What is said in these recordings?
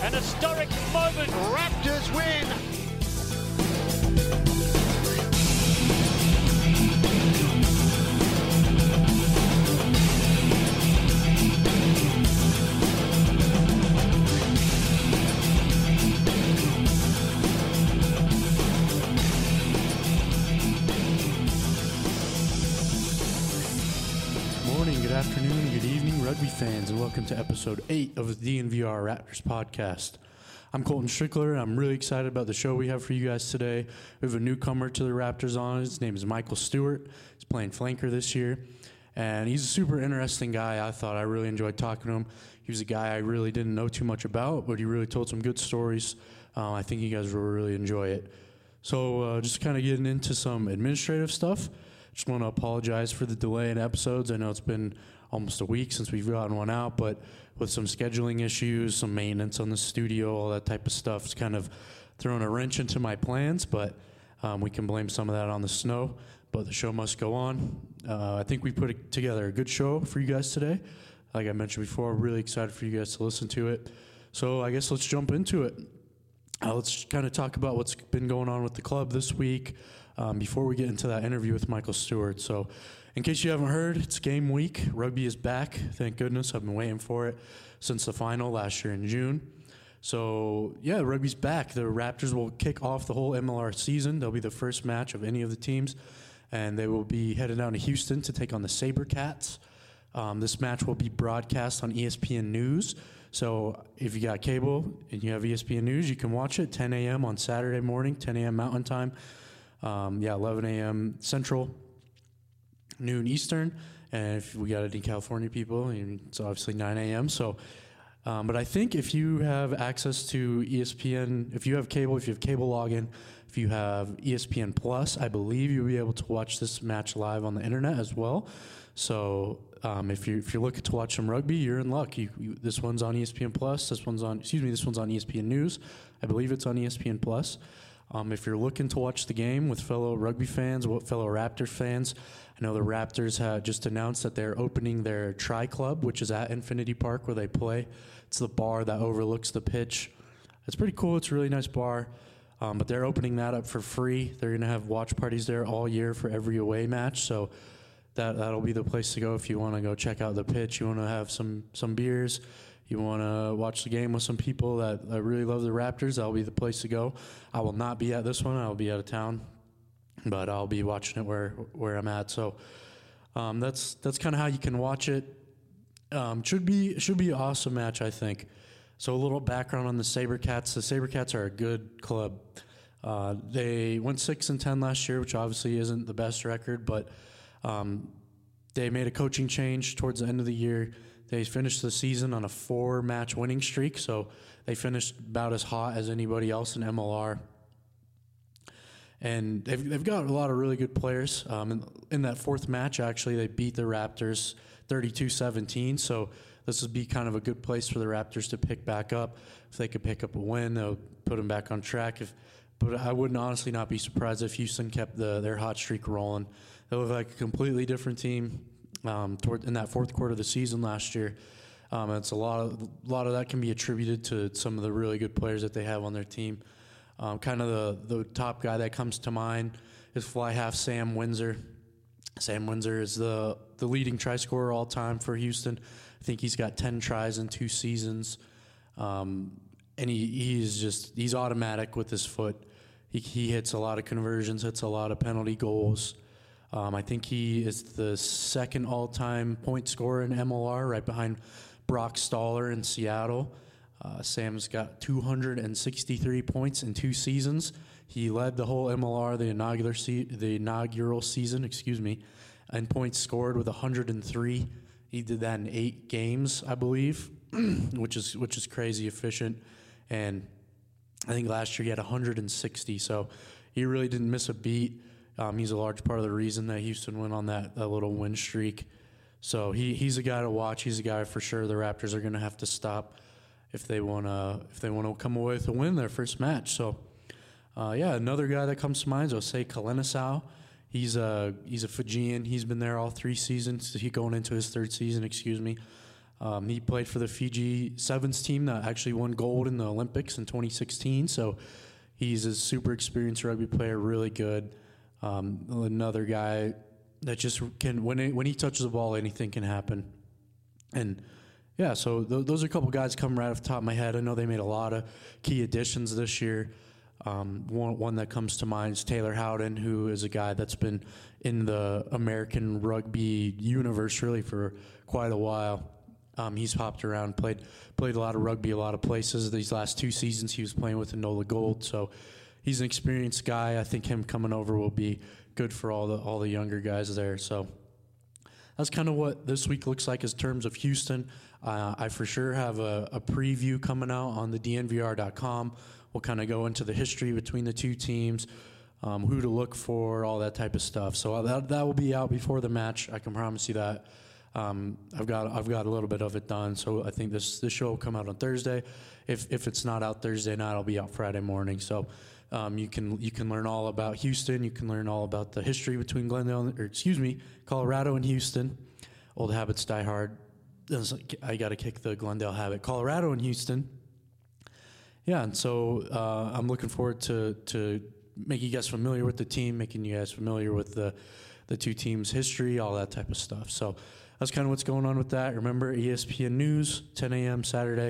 An historic moment. Raptors win. Good afternoon, good evening, rugby fans, and welcome to episode 8 of the DNVR Raptors podcast. I'm Colton Strickler. I'm really excited about the show we have for you guys today. We have a newcomer to the Raptors on. His name is Michael Stewart. He's playing flanker this year, and he's a super interesting guy. I really enjoyed talking to him. He was a guy I really didn't know too much about, but he really told some good stories. I think you guys will really enjoy it. So just kind of getting into some administrative stuff. Just want to apologize for the delay in episodes. I know it's been almost a week since we've gotten one out, but with some scheduling issues, some maintenance on the studio, all that type of stuff, it's kind of thrown a wrench into my plans, but we can blame some of that on the snow, but the show must go on. I think we put together a good show for you guys today. Like I mentioned before, I'm really excited for you guys to listen to it. So I guess let's jump into it. Let's kind of talk about what's been going on with the club this week. Before we get into that interview with Michael Stewart. So in case you haven't heard, it's game week. Rugby is back. Thank goodness. I've been waiting for it since the final last year in June. So, yeah, rugby's back. The Raptors will kick off the whole MLR season. They'll be the first match of any of the teams, and they will be headed down to Houston to take on the SaberCats. This match will be broadcast on ESPN News. So if you got cable and you have ESPN News, you can watch it 10 a.m. on Saturday morning, 10 a.m. Mountain Time. 11 a.m. Central, noon Eastern, and if we got any California people, it's obviously 9 a.m. So, but I think if you have access to ESPN, if you have cable login, if you have ESPN Plus, I believe you'll be able to watch this match live on the internet as well. So, if you're looking to watch some rugby, you're in luck. This one's on ESPN Plus. This one's on ESPN News. I believe it's on ESPN Plus. If you're looking to watch the game with fellow rugby fans, fellow Raptors fans, I know the Raptors had just announced that they're opening their Tri Club, which is at Infinity Park where they play. It's the bar that overlooks the pitch. It's pretty cool. It's a really nice bar, but they're opening that up for free. They're going to have watch parties there all year for every away match, so that'll be the place to go if you want to go check out the pitch. You want to have some beers. You want to watch the game with some people that really love the Raptors, that'll be the place to go. I will not be at this one. I'll be out of town, but I'll be watching it where I'm at. So that's kind of how you can watch it. Should be an awesome match, I think. So a little background on the SaberCats. The SaberCats are a good club. They went 6-10 last year, which obviously isn't the best record, but they made a coaching change towards the end of the year. They finished the season on a 4-match winning streak, so they finished about as hot as anybody else in MLR. And they've got a lot of really good players. In that 4th match, actually, they beat the Raptors 32-17, so this would be kind of a good place for the Raptors to pick back up. If they could pick up a win, they'll put them back on track. But I would honestly not be surprised if Houston kept their hot streak rolling. They look like a completely different team. In that 4th quarter of the season last year, it's a lot of that can be attributed to some of the really good players that they have on their team. Kind of the top guy that comes to mind is fly half Sam Windsor. Sam Windsor is the leading try scorer all time for Houston. I think he's got 10 tries in 2 seasons, and he's automatic with his foot. He hits a lot of conversions, hits a lot of penalty goals. I think he is the 2nd all-time point scorer in MLR, right behind Brock Stoller in Seattle. Sam's got 263 points in 2 seasons. He led the whole MLR, the inaugural season, in points scored with 103. He did that in 8 games, I believe, which is crazy efficient. And I think last year he had 160, so he really didn't miss a beat. He's a large part of the reason that Houston went on that little win streak. So he's a guy to watch. He's a guy for sure the Raptors are going to have to stop if they want to come away with a win their first match. So another guy that comes to mind is Jose Kalenisau. He's a Fijian. He's been there all 3 seasons. He's going into his 3rd season. He played for the Fiji Sevens team that actually won gold in the Olympics in 2016. So he's a super experienced rugby player, really good. Another guy that just can, when he touches the ball, anything can happen. And yeah, so those are a couple guys coming right off the top of my head. I know they made a lot of key additions this year. One that comes to mind is Taylor Howden, who is a guy that's been in the American rugby universe really for quite a while. He's hopped around, played a lot of rugby, a lot of places. These last 2 seasons he was playing with Enola Gold, so he's an experienced guy. I think him coming over will be good for all the younger guys there. So that's kind of what this week looks like in terms of Houston. I for sure have a preview coming out on the DNVR.com. We'll kind of go into the history between the two teams, who to look for, all that type of stuff. So that will be out before the match. I can promise you that. I've got a little bit of it done, so I think this show will come out on Thursday. If it's not out Thursday night, it'll be out Friday morning. So you can learn all about Houston. You can learn all about the history between Colorado and Houston. Old habits die hard. I got to kick the Glendale habit. Colorado and Houston. Yeah, and so I'm looking forward to making you guys familiar with the team, making you guys familiar with the two teams' history, all that type of stuff. So that's kind of what's going on with that. Remember, ESPN News, 10 a.m. Saturday.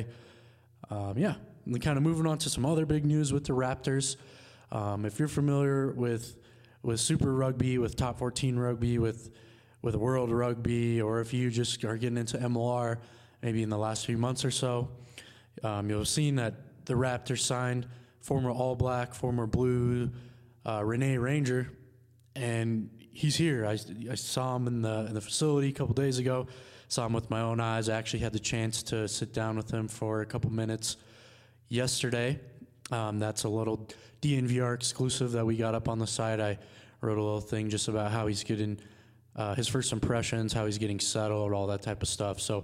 And kind of moving on to some other big news with the Raptors. If you're familiar with Super Rugby, with Top 14 Rugby, with World Rugby, or if you just are getting into MLR maybe in the last few months or so, you'll have seen that the Raptors signed former All Black, former Blue, Renee Ranger, and he's here. I saw him in the facility a couple days ago. Saw him with my own eyes. I actually had the chance to sit down with him for a couple minutes yesterday. That's a little DNVR exclusive that we got up on the site. I wrote a little thing just about how he's getting his first impressions, how he's getting settled, all that type of stuff. So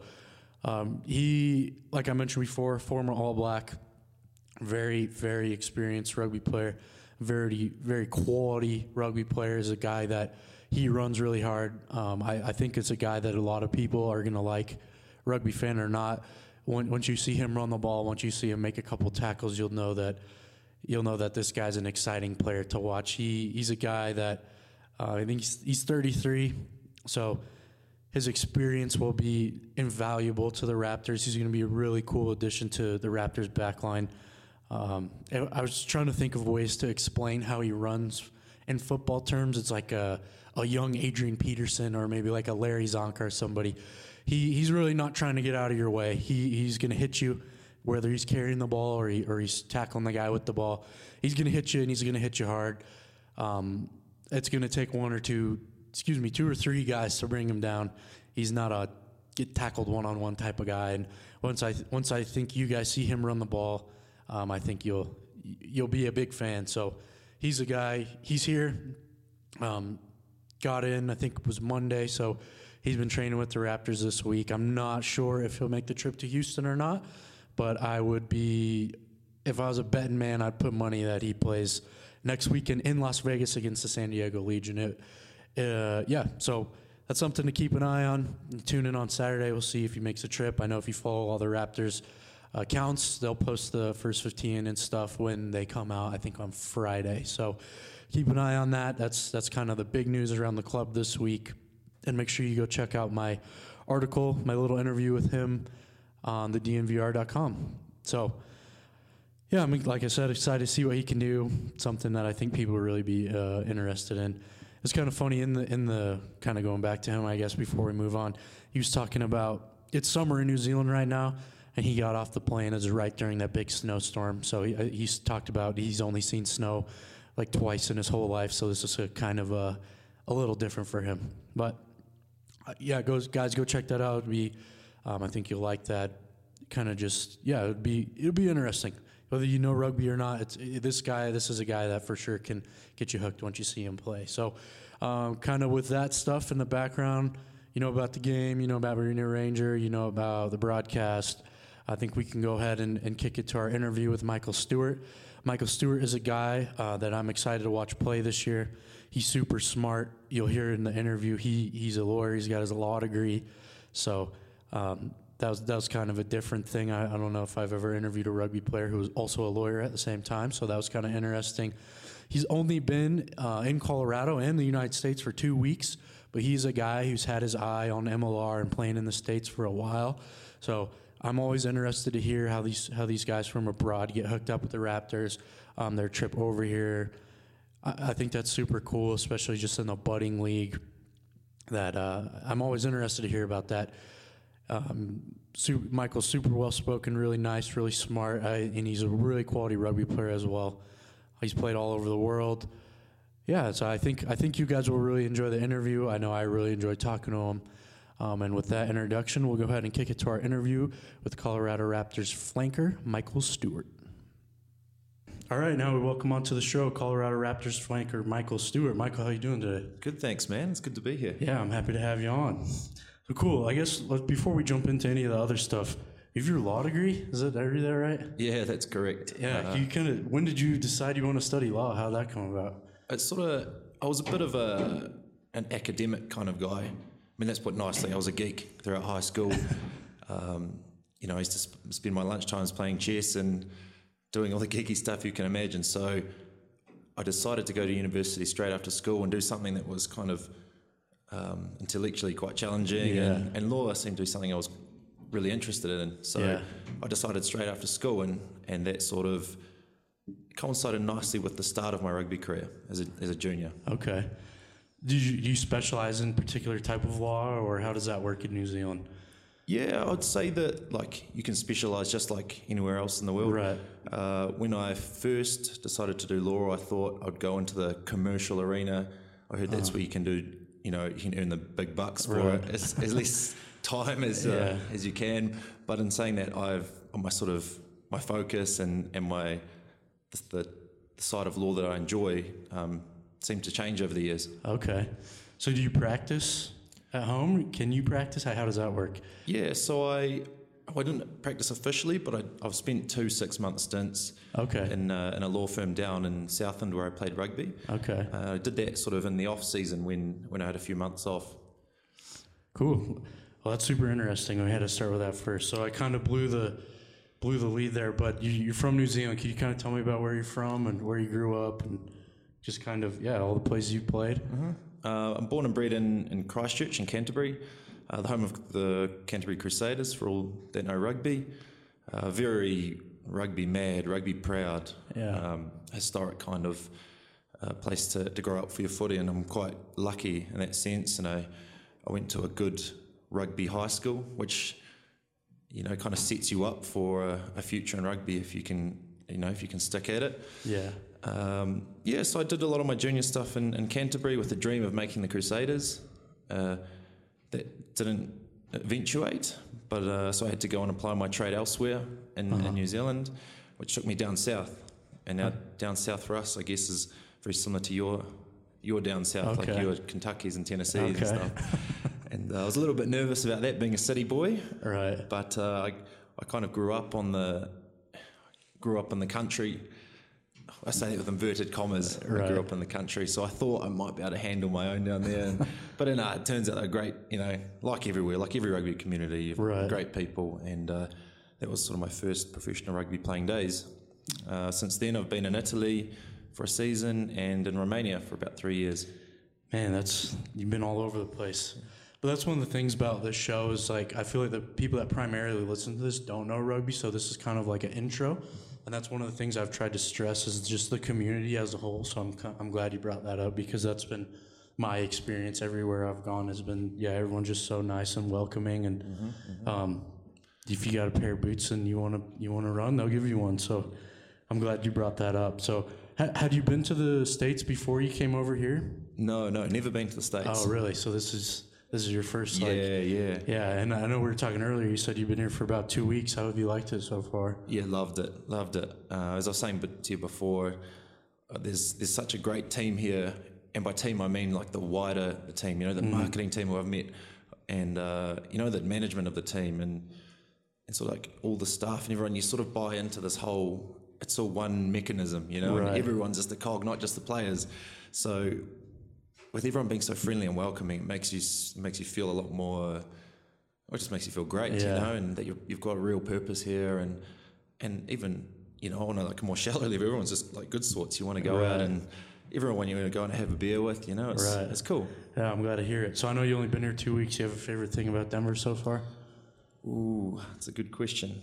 he, like I mentioned before, former All Black, very, very experienced rugby player, very, very quality rugby player. Is a guy that he runs really hard. I think it's a guy that a lot of people are going to like, rugby fan or not. Once you see him run the ball, once you see him make a couple tackles, you'll know that this guy's an exciting player to watch. He's a guy that I think he's 33, so his experience will be invaluable to the Raptors. He's going to be a really cool addition to the Raptors backline. I was trying to think of ways to explain how he runs in football terms. It's like a young Adrian Peterson or maybe like a Larry Zonka or somebody. He's really not trying to get out of your way. He's going to hit you, whether he's carrying the ball or he's tackling the guy with the ball. He's going to hit you, and he's going to hit you hard. It's going to take two or three guys to bring him down. He's not a get tackled one-on-one type of guy. And once I think you guys see him run the ball, I think you'll be a big fan. So he's a guy. He's here. Got in, I think it was Monday. So he's been training with the Raptors this week. I'm not sure if he'll make the trip to Houston or not, but I would be, if I was a betting man, I'd put money that he plays next weekend in Las Vegas against the San Diego Legion. So that's something to keep an eye on. Tune in on Saturday. We'll see if he makes a trip. I know if you follow all the Raptors accounts, they'll post the first 15 and stuff when they come out, I think on Friday. So keep an eye on that. That's kind of the big news around the club this week. And make sure you go check out my article, my little interview with him on the DNVR.com. So, yeah, like I said, excited to see what he can do. Something that I think people will really be interested in. It's kind of funny in the kind of going back to him, I guess, before we move on. He was talking about it's summer in New Zealand right now, and he got off the plane as right during that big snowstorm. So he's talked about he's only seen snow like twice in his whole life. So this is a kind of a little different for him. But yeah, guys, go check that out. It'd be, I think you'll like that. Kind of just it'll be interesting. Whether you know rugby or not, this is a guy that for sure can get you hooked once you see him play. So kind of with that stuff in the background, you know about the game, you know about Renee Ranger, you know about the broadcast. I think we can go ahead and kick it to our interview with Michael Stewart. Michael Stewart is a guy that I'm excited to watch play this year. He's super smart. You'll hear in the interview, he's a lawyer. He's got his law degree. So that was kind of a different thing. I don't know if I've ever interviewed a rugby player who was also a lawyer at the same time, so that was kind of interesting. He's only been in Colorado and the United States for 2 weeks, but he's a guy who's had his eye on MLR and playing in the States for a while. So I'm always interested to hear how these guys from abroad get hooked up with the Raptors, their trip over here. I think that's super cool, especially just in the budding league. That I'm always interested to hear about that. Michael's super well spoken, really nice, really smart, and he's a really quality rugby player as well. He's played all over the world. Yeah, so I think you guys will really enjoy the interview. I know I really enjoyed talking to him. And with that introduction, we'll go ahead and kick it to our interview with Colorado Raptors flanker Michael Stewart. All right, now we welcome onto the show Colorado Raptors flanker Michael Stewart. Michael, how you doing today? Good, thanks, man. It's good to be here. Yeah, I'm happy to have you on. So cool. I guess before we jump into any of the other stuff, you have your law degree? Did I read that right? Yeah, that's correct. Yeah. When did you decide you want to study law? How'd that come about? I was a bit of an academic kind of guy. I mean, that's put nicely. I was a geek throughout high school. I used to spend my lunchtimes playing chess and doing all the geeky stuff you can imagine. So I decided to go to university straight after school and do something that was kind of intellectually quite challenging. Yeah. And law seemed to be something I was really interested in. So I decided straight after school, and that sort of coincided nicely with the start of my rugby career as a junior. Okay. Do you specialize in a particular type of law, or how does that work in New Zealand? Yeah, I'd say that you can specialise just like anywhere else in the world. Right. When I first decided to do law, I thought I'd go into the commercial arena. I heard that's where you can do, you can earn the big bucks for as less time as you can. But in saying that, my focus and the side of law that I enjoy seemed to change over the years. Okay. So do you practice at home? Can you practice? How does that work? Yeah, so I didn't practice officially, but I've spent 2 6-month stints in a law firm down in Southland where I played rugby. Okay. I did that sort of in the off season when I had a few months off. Cool. Well, that's super interesting. We had to start with that first. So I kind of blew the lead there, but you're from New Zealand. Can you kind of tell me about where you're from and where you grew up and just kind of, all the places you've played? Mm-hmm. I'm born and bred in Christchurch in Canterbury, the home of the Canterbury Crusaders, for all that know rugby. Very rugby mad, rugby proud, historic kind of place to grow up for your footy, and I'm quite lucky in that sense. And I went to a good rugby high school, which kind of sets you up for a future in rugby if you can stick at it. Yeah. So I did a lot of my junior stuff in Canterbury with the dream of making the Crusaders. That didn't eventuate, but so I had to go and apply my trade elsewhere in New Zealand, which took me down south. And now down south for us, I guess, is very similar to your down south, like your Kentuckys and Tennessees and stuff. And I was a little bit nervous about that, being a city boy. Right. But I kind of grew up in the country. I say that with inverted commas. Right. I grew up in the country, so I thought I might be able to handle my own down there. But it turns out they're great, like everywhere, like every rugby community, you've great people. And that was sort of my first professional rugby playing days. Since then, I've been in Italy for a season and in Romania for about 3 years. Man, you've been all over the place. But that's one of the things about this show is, I feel like the people that primarily listen to this don't know rugby, so this is kind of like an intro. And that's one of the things I've tried to stress is just the community as a whole. So I'm glad you brought that up, because that's been my experience everywhere I've gone has been, everyone's just so nice and welcoming. And if you got a pair of boots and you want to run, they'll give you one. So I'm glad you brought that up. So had you been to the States before you came over here? No, never been to the States. Oh, really? So this is your first, Yeah. Yeah, and I know we were talking earlier, you said you've been here for about 2 weeks. How have you liked it so far? Yeah, loved it. As I was saying to you before, there's such a great team here, and by team I mean like the wider the team, the marketing team who I've met, and the management of the team, and sort of like all the staff and everyone, you sort of buy into this whole, it's all one mechanism, and everyone's just a cog, not just the players. So with everyone being so friendly and welcoming, it makes you feel a lot more it just makes you feel great, you know, and that you've got a real purpose here, and even, you know, on a like more shallow level, everyone's just like good sorts. You want to go out and everyone you want to go and have a beer with, you know, it's cool. Yeah, I'm glad to hear it. So I know you only been here 2 weeks. You have a favorite thing about Denver so far? Ooh, that's a good question.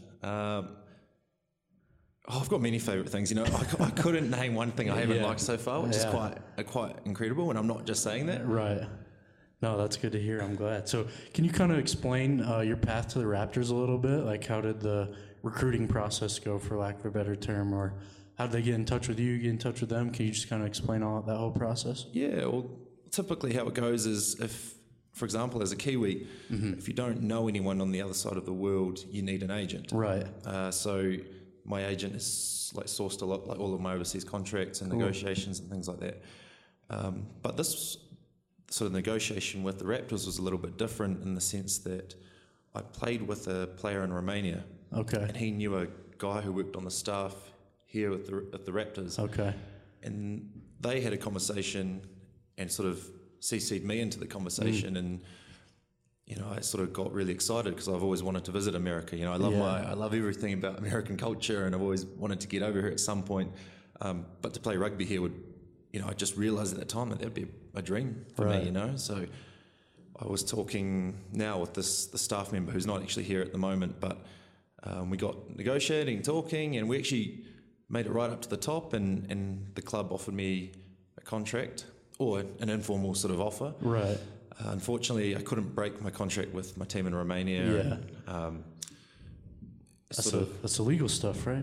I've got many favourite things. You know, I couldn't name one thing I haven't liked so far, which is quite incredible, and I'm not just saying that. Right. No, that's good to hear. I'm glad. So can you kind of explain your path to the Raptors a little bit? Like, how did the recruiting process go, for lack of a better term, or how did they get in touch with you, get in touch with them? Can you just kind of explain that whole process? Yeah, well, typically how it goes is if, for example, as a Kiwi, if you don't know anyone on the other side of the world, you need an agent. Right. So my agent has like sourced a lot, like all of my overseas contracts and negotiations and things like that. But this sort of negotiation with the Raptors was a little bit different in the sense that I played with a player in Romania. Okay. And he knew a guy who worked on the staff here at the Raptors. Okay. And they had a conversation and sort of CC'd me into the conversation, and you know, I sort of got really excited because I've always wanted to visit America. You know, I love everything about American culture, and I've always wanted to get over here at some point. But to play rugby here would, you know, I just realised at that time that would be a dream for me. You know, so I was talking now with the staff member who's not actually here at the moment, but we got negotiating, talking, and we actually made it right up to the top, and the club offered me a contract or an informal sort of offer. Right. Unfortunately, I couldn't break my contract with my team in Romania. Yeah. And, that's illegal stuff, right?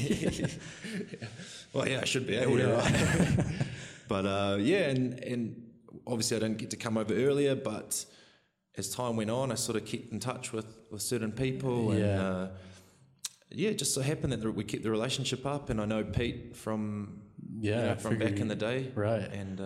Well, yeah, I should be able to, right? But and obviously I didn't get to come over earlier, but as time went on, I sort of kept in touch with certain people, and it just so happened that we kept the relationship up, and I know Pete from from back in the day, right? And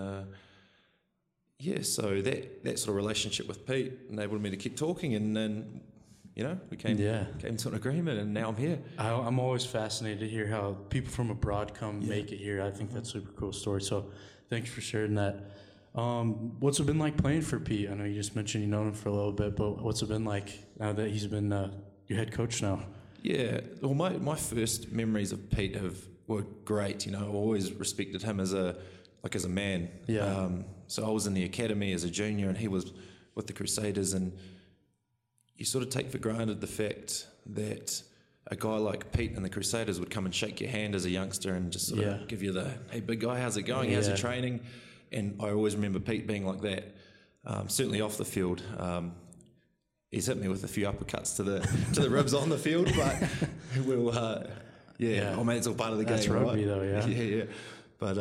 so that sort of relationship with Pete enabled me to keep talking, and then you know we came to an agreement, and now I'm here. I'm always fascinated to hear how people from abroad make it here. I think that's a super cool story. So thanks for sharing that. What's it been like playing for Pete? I know you just mentioned you known him for a little bit, but what's it been like now that he's been your head coach now? Yeah, well, my first memories of Pete were great. You know, I always respected him as a man. Yeah. So I was in the academy as a junior, and he was with the Crusaders, and you sort of take for granted the fact that a guy like Pete and the Crusaders would come and shake your hand as a youngster and just sort of give you the, hey, big guy, how's it going? How's your training? And I always remember Pete being like that. Certainly off the field. He's hit me with a few uppercuts to the ribs on the field, but we'll, I mean, it's all part of the game. That's rugby, right? Though, yeah. Yeah. But,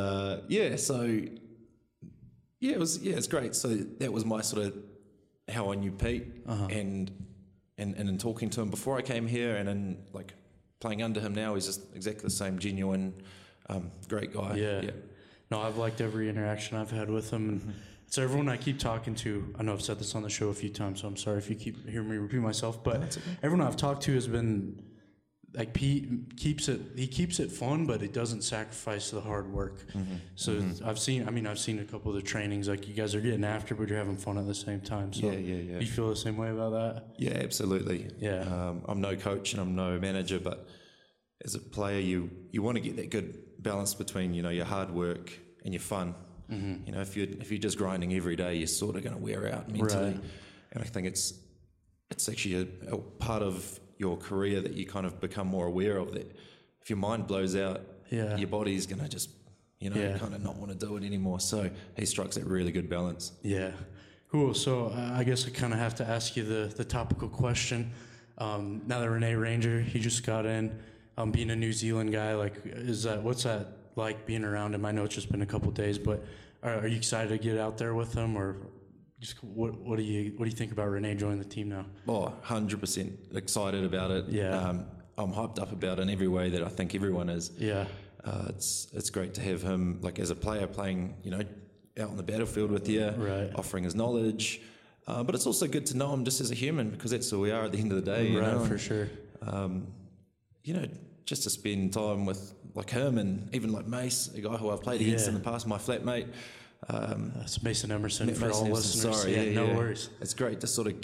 it's great. So that was my sort of how I knew Pete, and in talking to him before I came here, and in like playing under him now, he's just exactly the same genuine, great guy. Yeah. No, I've liked every interaction I've had with him, and so everyone I keep talking to, I know I've said this on the show a few times, so I'm sorry if you keep hearing me repeat myself, but everyone I've talked to has been like, Pete keeps it fun, but it doesn't sacrifice the hard work. So I've seen a couple of the trainings, like you guys are getting after, but you're having fun at the same time. So you feel the same way about that? Yeah, absolutely. Yeah. I'm no coach and I'm no manager, but as a player, you want to get that good balance between, you know, your hard work and your fun. You know, if you're just grinding every day, you're sort of going to wear out mentally. Right. And I think it's actually a part of your career that you kind of become more aware of, that if your mind blows out, your body's going to just, kind of not want to do it anymore. So he strikes that really good balance. Yeah. Cool. So I guess I kind of have to ask you the topical question. Now that Rene Ranger, he just got in, being a New Zealand guy, like, what's that like being around him? I know it's just been a couple of days, but are you excited to get out there with him, or just what do you think about Rene joining the team now? Oh, 100% excited about it. Yeah. I'm hyped up about it in every way that I think everyone is. Yeah. It's great to have him, like, as a player playing, you know, out on the battlefield with you, offering his knowledge. But it's also good to know him just as a human, because that's who we are at the end of the day. You know? For sure. You know, just to spend time with like him, and even like Mace, a guy who I've played against in the past, my flatmate. That's Mason Emerson for all listeners. Sorry, no worries. It's great to sort of get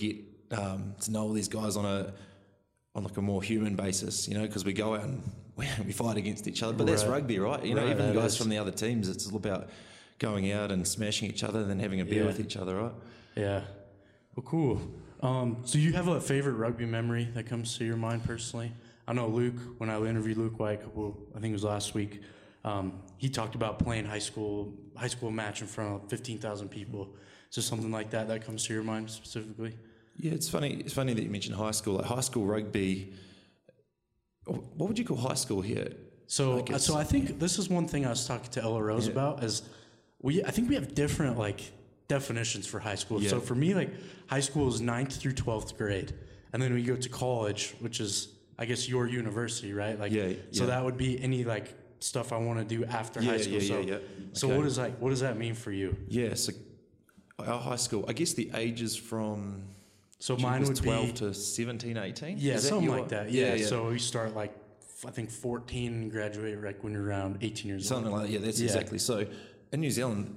to know all these guys on like a more human basis, because we go out and we fight against each other. But that's rugby, right? Even guys from the other teams, it's all about going out and smashing each other and then having a beer with each other, right? Yeah. Well, cool. So you have a favorite rugby memory that comes to your mind personally? I know Luke, when I interviewed Luke White I think it was last week, he talked about playing high school match in front of 15,000 people. Is there something like that comes to your mind specifically? Yeah, it's funny that you mentioned high school. Like high school rugby, what would you call high school here? So I think this is one thing I was talking to Ella Rose about is I think we have different definitions for high school. Yeah. So for me, high school is 9th through 12th grade. And then we go to college, which is, I guess, your university, right? So that would be any stuff I want to do after high school. So okay. What does that mean for you? Yeah, so our high school, I guess the ages from... So mine would 12 be... to 17, 18? Yeah, something like that. Yeah. So we start I think 14 and graduate when you're around 18 years old. Something like that, yeah, that's exactly. So in New Zealand,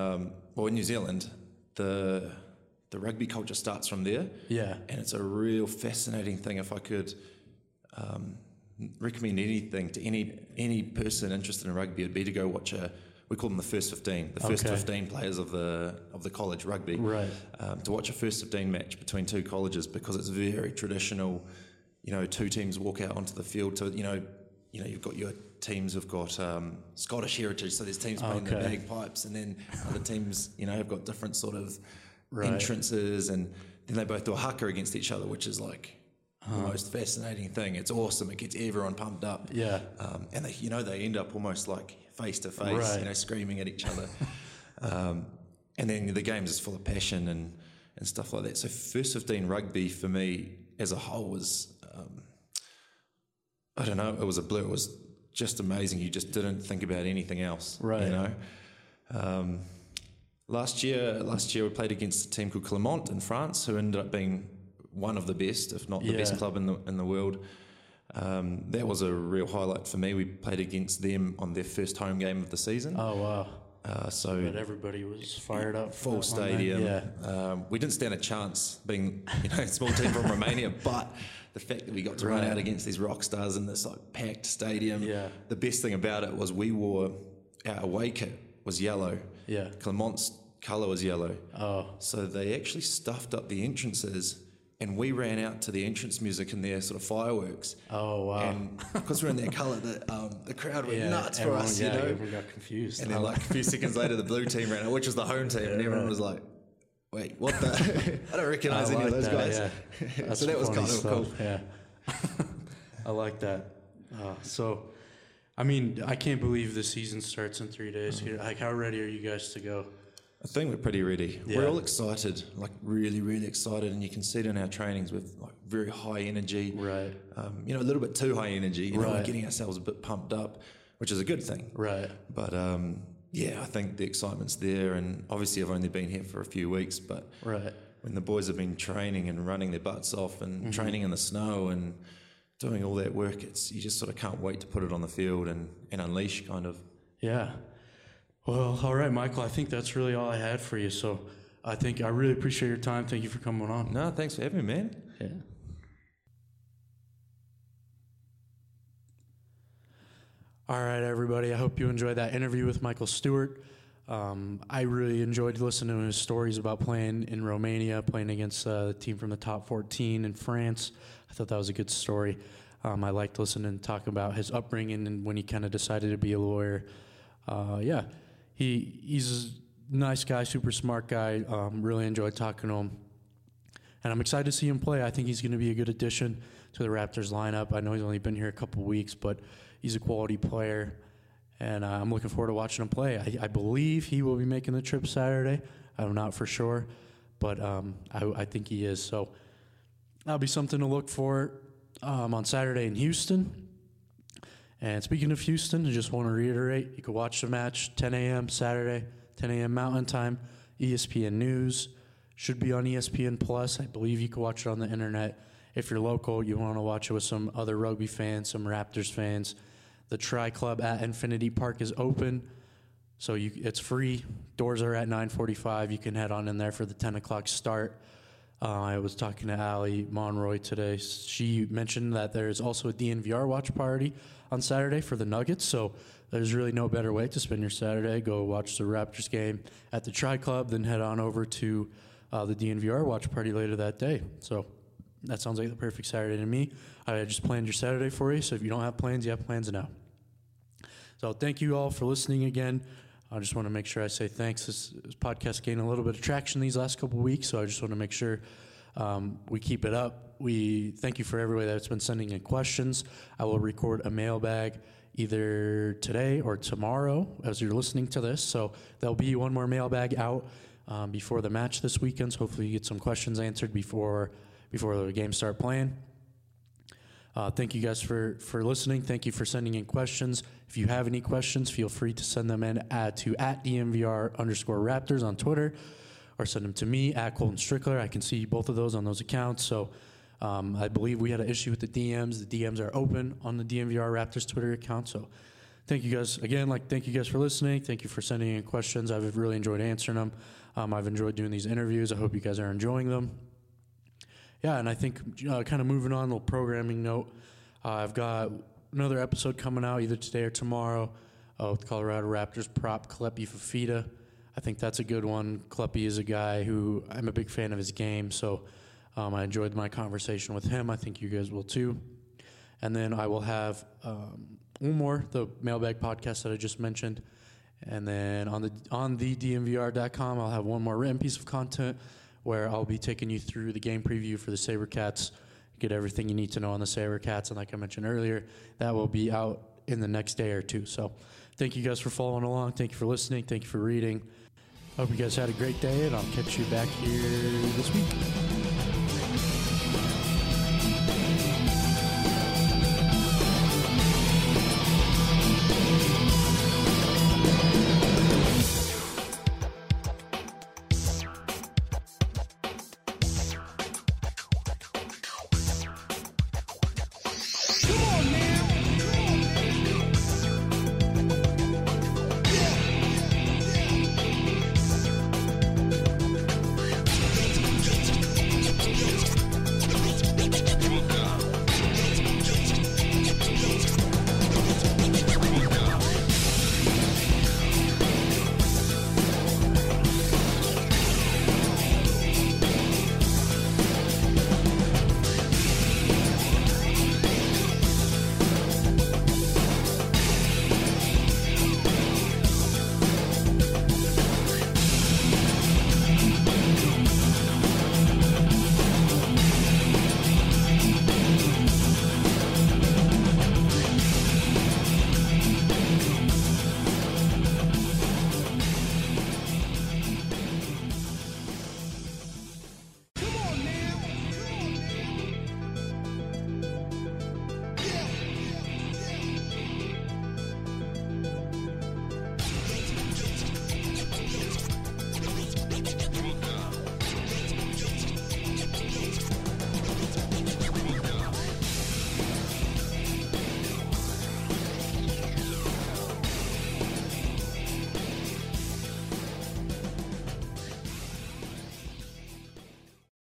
the rugby culture starts from there. Yeah. And it's a real fascinating thing. If I could recommend anything to any person interested in rugby, it'd be to go watch we call them the first 15, the first 15 players of the college rugby. Right. To watch a first 15 match between two colleges, because it's very traditional. Two teams walk out onto the field to, you've got your teams have got Scottish heritage, so there's teams playing the bagpipes, and then other teams, have got different sort of entrances, and then they both do a haka against each other, which is the most fascinating thing. It's awesome. It gets everyone pumped up. Yeah. And they end up almost face to face, screaming at each other. And then the game's just full of passion and stuff like that. So first 15 rugby for me as a whole was, I don't know, it was a blur. It was just amazing. You just didn't think about anything else. Right. Last year we played against a team called Clermont in France, who ended up being one of the best, if not the best club in the world. That was a real highlight for me. We played against them on their first home game of the season. Oh, wow. But everybody was fired up. Full stadium. Yeah. We didn't stand a chance being a small team from Romania, but the fact that we got to run out against these rock stars in this packed stadium. Yeah. The best thing about it was our away kit was yellow. Yeah. Clermont's colour was yellow. Oh. So they actually stuffed up the entrances, and we ran out to the entrance music and their sort of fireworks. Oh, wow. And because we're in their colour, the crowd went nuts for us, everyone got confused. And then a few seconds later, the blue team ran out, which was the home team, and everyone was like, wait, what the... I don't recognise any of those guys. Yeah. So that was kind of cool. Yeah. I like that. So, I mean, I can't believe the season starts in 3 days. How ready are you guys to go? I think we're pretty ready. Yeah. We're all excited, really, really excited, and you can see it in our trainings with very high energy. Right. A little bit too high energy. We're getting ourselves a bit pumped up, which is a good thing. Right. But I think the excitement's there, and obviously I've only been here for a few weeks, but when the boys have been training and running their butts off and training in the snow and doing all that work, you just sort of can't wait to put it on the field and unleash, kind of. Yeah. Well, all right, Michael, I think that's really all I had for you. So I really appreciate your time. Thank you for coming on. No, thanks for having me, man. Yeah. All right, everybody. I hope you enjoyed that interview with Michael Stewart. I really enjoyed listening to his stories about playing in Romania, playing against the team from the top 14 in France. I thought that was a good story. I liked listening and talking about his upbringing and when he kind of decided to be a lawyer. He's a nice guy, super smart guy. Really enjoyed talking to him. And I'm excited to see him play. I think he's going to be a good addition to the Raptors lineup. I know he's only been here a couple weeks, but he's a quality player. And I'm looking forward to watching him play. I believe he will be making the trip Saturday. I'm not for sure, but I think he is. So that'll be something to look for on Saturday in Houston. And speaking of Houston, I just want to reiterate, you can watch the match 10 a.m. Saturday, 10 a.m. Mountain Time, ESPN News. Should be on ESPN Plus. I believe you can watch it on the internet. If you're local, you want to watch it with some other rugby fans, some Raptors fans. The Tri Club at Infinity Park is open, so it's free. Doors are at 9:45. You can head on in there for the 10 o'clock start. I was talking to Allie Monroy today. She mentioned that there's also a DNVR watch party on Saturday for the Nuggets, so there's really no better way to spend your Saturday. Go watch the Raptors game at the Tri Club, then head on over to the DNVR watch party later that day. So that sounds like the perfect Saturday to me. I just planned your Saturday for you, so if you don't have plans, you have plans now. So thank you all for listening again. I just want to make sure I say thanks. This podcast gained a little bit of traction these last couple of weeks, so I just want to make sure we keep it up. We thank you for everybody that's been sending in questions. I will record a mailbag either today or tomorrow as you're listening to this. So there'll be one more mailbag out before the match this weekend. So hopefully you get some questions answered before the games start playing. Thank you guys for listening. Thank you for sending in questions. If you have any questions, feel free to send them in to @DNVR_Raptors on Twitter, or send them to me @Colton Strickler. I can see both of those on those accounts. So I believe we had an issue with the DMs. The DMs are open on the DNVR Raptors Twitter account. So thank you guys again. Thank you guys for listening. Thank you for sending in questions. I've really enjoyed answering them. I've enjoyed doing these interviews. I hope you guys are enjoying them. Yeah, and I think kind of moving on, a little programming note. I've got another episode coming out either today or tomorrow with Colorado Raptors prop Kalepi Fafita. I think that's a good one. Kalepi is a guy who I'm a big fan of his game, so I enjoyed my conversation with him. I think you guys will too. And then I will have one more, the mailbag podcast that I just mentioned. And then on the DNVR.com, I'll have one more written piece of content where I'll be taking you through the game preview for the SaberCats, get everything you need to know on the SaberCats. And like I mentioned earlier, that will be out in the next day or two. So thank you guys for following along. Thank you for listening. Thank you for reading. Hope you guys had a great day, and I'll catch you back here this week.